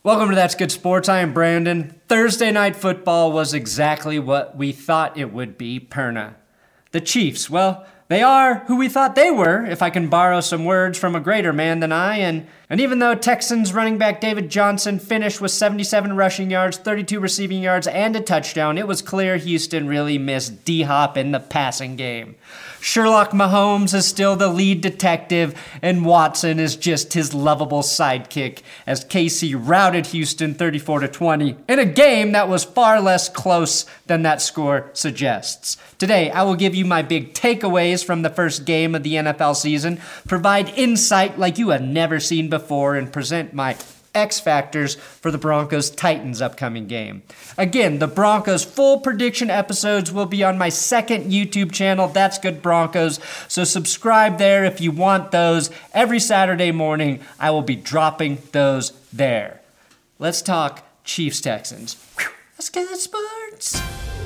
Welcome to That's Good Sports. I am Brandon. Thursday night football was exactly what we thought it would be, Perna. The Chiefs, well, they are who we thought they were, if I can borrow some words from a greater man than I, and even though Texans running back David Johnson finished with 77 rushing yards, 32 receiving yards, and a touchdown, it was clear Houston really missed D-Hop in the passing game. Sherlock Mahomes is still the lead detective, and Watson is just his lovable sidekick as KC routed Houston 34-20 in a game that was far less close than that score suggests. Today, I will give you my big takeaways from the first game of the NFL season, provide insight like you have never seen before, and present my X factors for the Broncos-Titans upcoming game. Again, the Broncos full prediction episodes will be on my second YouTube channel, That's Good Broncos, so subscribe there if you want those. Every Saturday morning, I will be dropping those there. Let's talk Chiefs-Texans. Let's get the sports.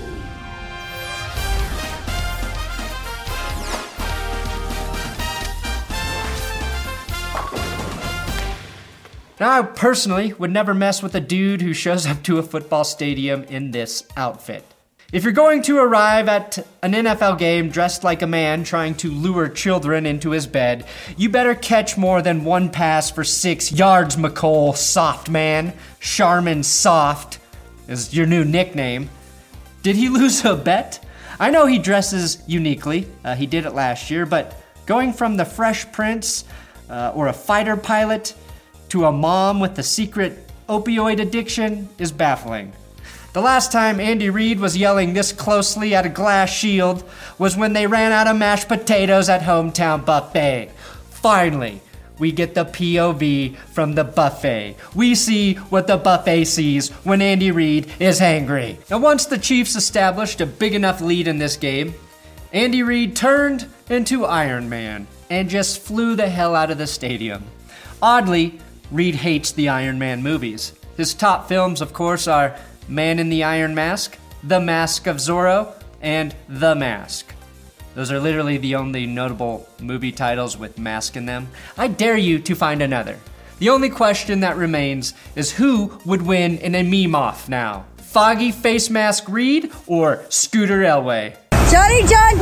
Now, I personally would never mess with a dude who shows up to a football stadium in this outfit. If you're going to arrive at an NFL game dressed like a man trying to lure children into his bed, you better catch more than one pass for 6 yards, McCole, soft man. Charmin Soft is your new nickname. Did he lose a bet? I know he dresses uniquely. He did it last year, but going from the Fresh Prince or a fighter pilot to a mom with a secret opioid addiction is baffling. The last time Andy Reid was yelling this closely at a glass shield was when they ran out of mashed potatoes at Hometown Buffet. Finally, we get the POV from the buffet. We see what the buffet sees when Andy Reid is angry. Now, once the Chiefs established a big enough lead in this game, Andy Reid turned into Iron Man and just flew the hell out of the stadium. Oddly, Reid hates the Iron Man movies. His top films, of course, are Man in the Iron Mask, The Mask of Zorro, and The Mask. Those are literally the only notable movie titles with mask in them. I dare you to find another. The only question that remains is who would win in a meme-off now? Foggy Face Mask Reid or Scooter Elway? Johnny John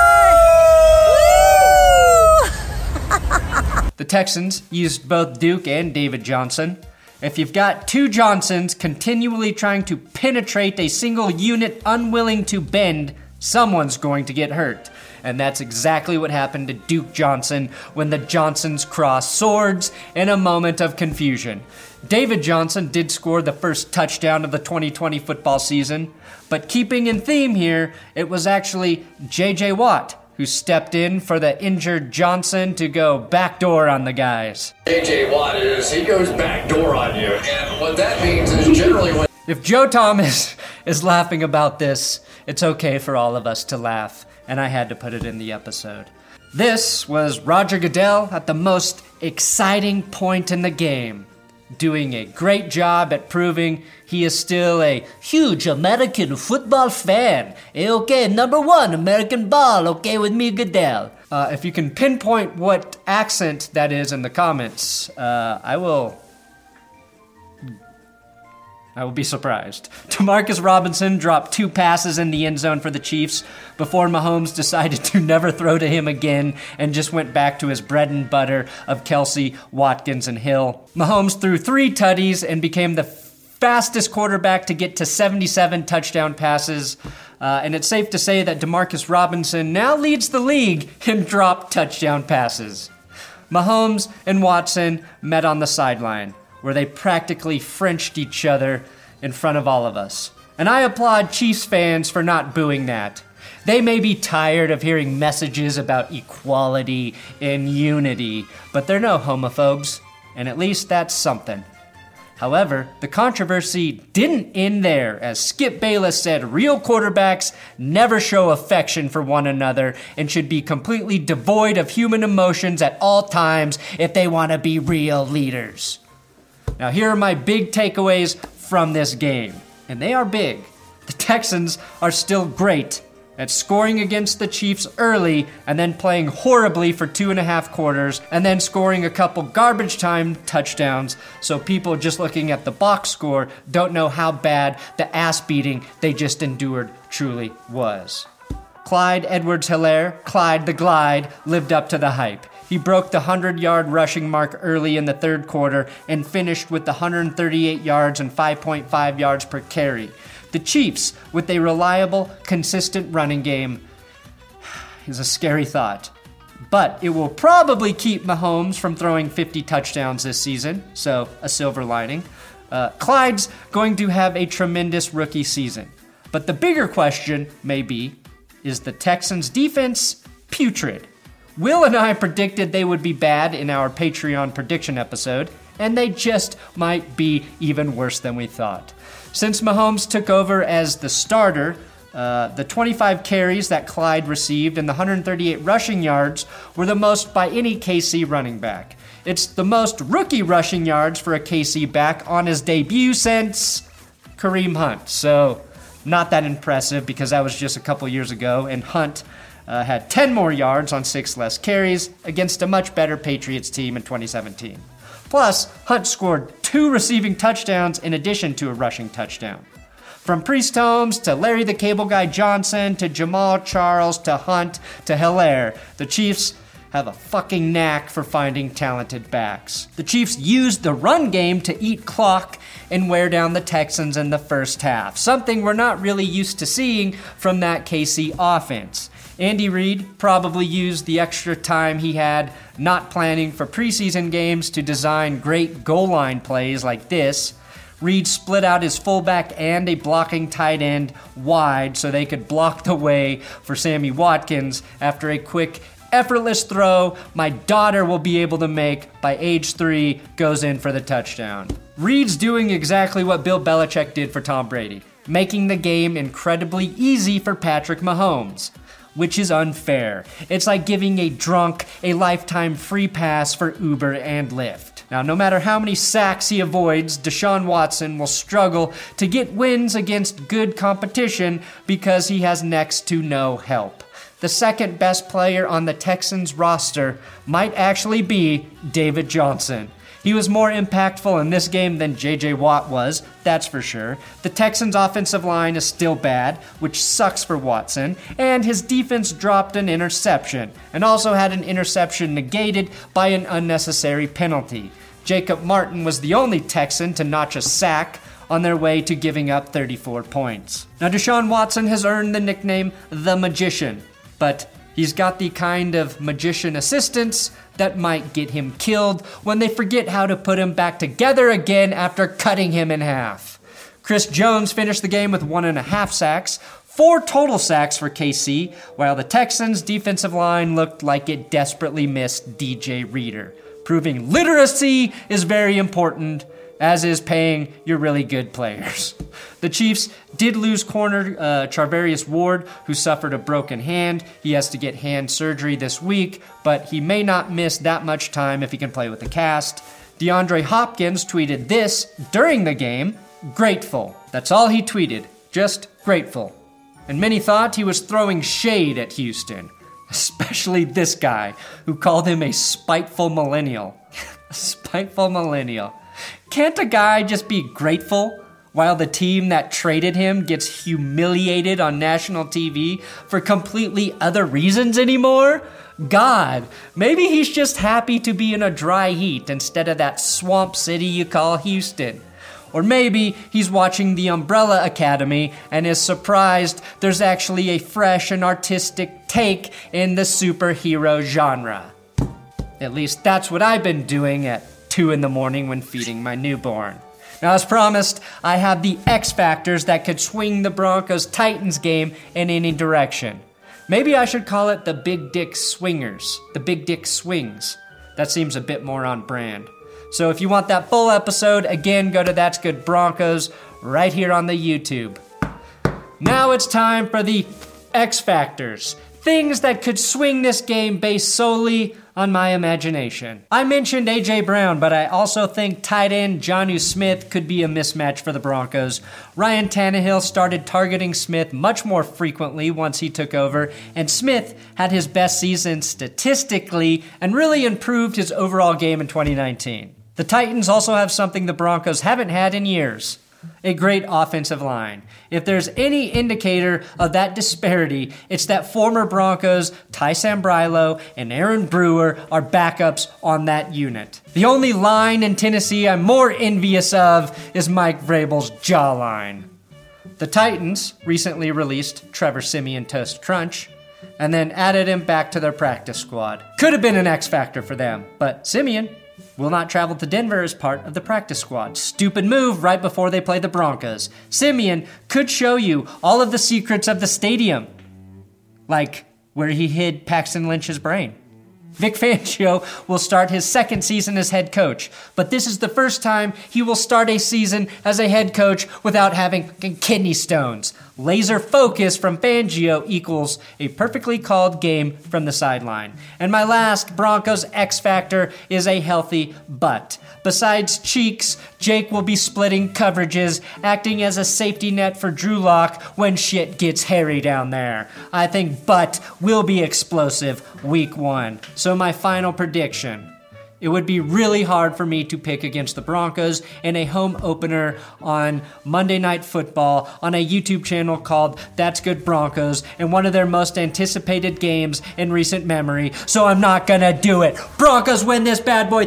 The Texans used both Duke and David Johnson. If you've got two Johnsons continually trying to penetrate a single unit unwilling to bend, someone's going to get hurt. And that's exactly what happened to Duke Johnson when the Johnsons crossed swords in a moment of confusion. David Johnson did score the first touchdown of the 2020 football season, but keeping in theme here, it was actually J.J. Watt who stepped in for the injured Johnson to go backdoor on the guys. J.J. Watt he goes backdoor on you, and what that means is generally when... If Joe Thomas is laughing about this, it's okay for all of us to laugh, and I had to put it in the episode. This was Roger Goodell at the most exciting point in the game, doing a great job at proving he is still a huge American football fan. Okay, number one, American ball, okay with me, Goodell. If you can pinpoint what accent that is in the comments, I will be surprised. Demarcus Robinson dropped 2 passes in the end zone for the Chiefs before Mahomes decided to never throw to him again and just went back to his bread and butter of Kelsey, Watkins, and Hill. Mahomes threw 3 tutties and became the fastest quarterback to get to 77 touchdown passes. And it's safe to say that Demarcus Robinson now leads the league in dropped touchdown passes. Mahomes and Watson met on the sideline, where they practically Frenched each other in front of all of us. And I applaud Chiefs fans for not booing that. They may be tired of hearing messages about equality and unity, but they're no homophobes, and at least that's something. However, the controversy didn't end there, as Skip Bayless said real quarterbacks never show affection for one another and should be completely devoid of human emotions at all times if they want to be real leaders. Now, here are my big takeaways from this game, and they are big. The Texans are still great, at scoring against the Chiefs early and then playing horribly for 2.5 quarters and then scoring a couple garbage time touchdowns so people just looking at the box score don't know how bad the ass beating they just endured truly was. Clyde Edwards-Helaire, Clyde the Glide, lived up to the hype. He broke the 100-yard rushing mark early in the third quarter and finished with the 138 yards and 5.5 yards per carry. The Chiefs, with a reliable, consistent running game, is a scary thought. But it will probably keep Mahomes from throwing 50 touchdowns this season, so a silver lining. Clyde's going to have a tremendous rookie season. But the bigger question may be, is the Texans' defense putrid? Will and I predicted they would be bad in our Patreon prediction episode, and they just might be even worse than we thought. Since Mahomes took over as the starter, the 25 carries that Clyde received and the 138 rushing yards were the most by any KC running back. It's the most rookie rushing yards for a KC back on his debut since Kareem Hunt. So, not that impressive because that was just a couple years ago, and Hunt had 10 more yards on 6 less carries against a much better Patriots team in 2017. Plus, Hunt scored 2 receiving touchdowns in addition to a rushing touchdown. From Priest Holmes to Larry the Cable Guy Johnson to Jamal Charles to Hunt to Helaire, the Chiefs have a fucking knack for finding talented backs. The Chiefs used the run game to eat clock and wear down the Texans in the first half, something we're not really used to seeing from that KC offense. Andy Reid probably used the extra time he had not planning for preseason games to design great goal line plays like this. Reid split out his fullback and a blocking tight end wide so they could block the way for Sammy Watkins after a quick, effortless throw my daughter will be able to make by age 3 goes in for the touchdown. Reid's doing exactly what Bill Belichick did for Tom Brady, making the game incredibly easy for Patrick Mahomes, which is unfair. It's like giving a drunk a lifetime free pass for Uber and Lyft. Now, no matter how many sacks he avoids, Deshaun Watson will struggle to get wins against good competition because he has next to no help. The second best player on the Texans roster might actually be David Johnson. He was more impactful in this game than J.J. Watt was, that's for sure. The Texans' offensive line is still bad, which sucks for Watson, and his defense dropped an interception, and also had an interception negated by an unnecessary penalty. Jacob Martin was the only Texan to notch a sack on their way to giving up 34 points. Now, Deshaun Watson has earned the nickname The Magician, but he's got the kind of magician assistants that might get him killed when they forget how to put him back together again after cutting him in half. Chris Jones finished the game with 1.5 sacks, 4 total sacks for KC, while the Texans' defensive line looked like it desperately missed DJ Reader, proving literacy is very important, as is paying your really good players. The Chiefs did lose corner Charvarius Ward, who suffered a broken hand. He has to get hand surgery this week, but he may not miss that much time if he can play with the cast. DeAndre Hopkins tweeted this during the game, "Grateful." That's all he tweeted, just grateful. And many thought he was throwing shade at Houston, especially this guy, who called him a spiteful millennial. A spiteful millennial. Can't a guy just be grateful while the team that traded him gets humiliated on national TV for completely other reasons anymore? God, maybe he's just happy to be in a dry heat instead of that swamp city you call Houston. Or maybe he's watching The Umbrella Academy and is surprised there's actually a fresh and artistic take in the superhero genre. At least that's what I've been doing at 2 in the morning when feeding my newborn. Now, as promised, I have the X factors that could swing the Broncos-Titans game in any direction. Maybe I should call it the Big Dick Swingers, the Big Dick Swings. That seems a bit more on brand. So if you want that full episode, again, go to That's Good Broncos right here on the YouTube. Now it's time for the X factors. Things that could swing this game based solely on my imagination. I mentioned A.J. Brown, but I also think tight end Jonnu Smith could be a mismatch for the Broncos. Ryan Tannehill started targeting Smith much more frequently once he took over, and Smith had his best season statistically and really improved his overall game in 2019. The Titans also have something the Broncos haven't had in years: a great offensive line. If there's any indicator of that disparity, it's that former Broncos Ty Sambrailo and Aaron Brewer are backups on that unit. The only line in Tennessee I'm more envious of is Mike Vrabel's jawline. The Titans recently released Trevor Siemian Toast Crunch and then added him back to their practice squad. Could have been an X factor for them, but Siemian will not travel to Denver as part of the practice squad. Stupid move right before they play the Broncos. Siemian could show you all of the secrets of the stadium, like where he hid Paxton Lynch's brain. Vic Fangio will start his second season as head coach, but this is the first time he will start a season as a head coach without having kidney stones. Laser focus from Fangio equals a perfectly called game from the sideline. And my last Broncos X factor is a healthy butt. Besides cheeks, Jake will be splitting coverages, acting as a safety net for Drew Lock when shit gets hairy down there. I think Butt will be explosive week 1. So my final prediction: it would be really hard for me to pick against the Broncos in a home opener on Monday Night Football on a YouTube channel called That's Good Broncos and one of their most anticipated games in recent memory, so I'm not gonna do it. Broncos win this bad boy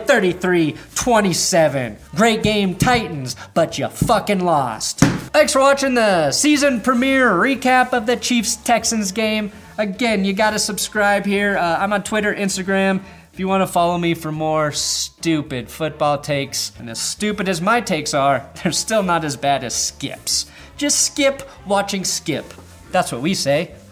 33-27. Great game, Titans, but you fucking lost. Thanks for watching the season premiere recap of the Chiefs-Texans game. Again, you gotta subscribe here. I'm on Twitter, Instagram. If you want to follow me for more stupid football takes, and as stupid as my takes are, they're still not as bad as Skip's. Just skip watching Skip. That's what we say.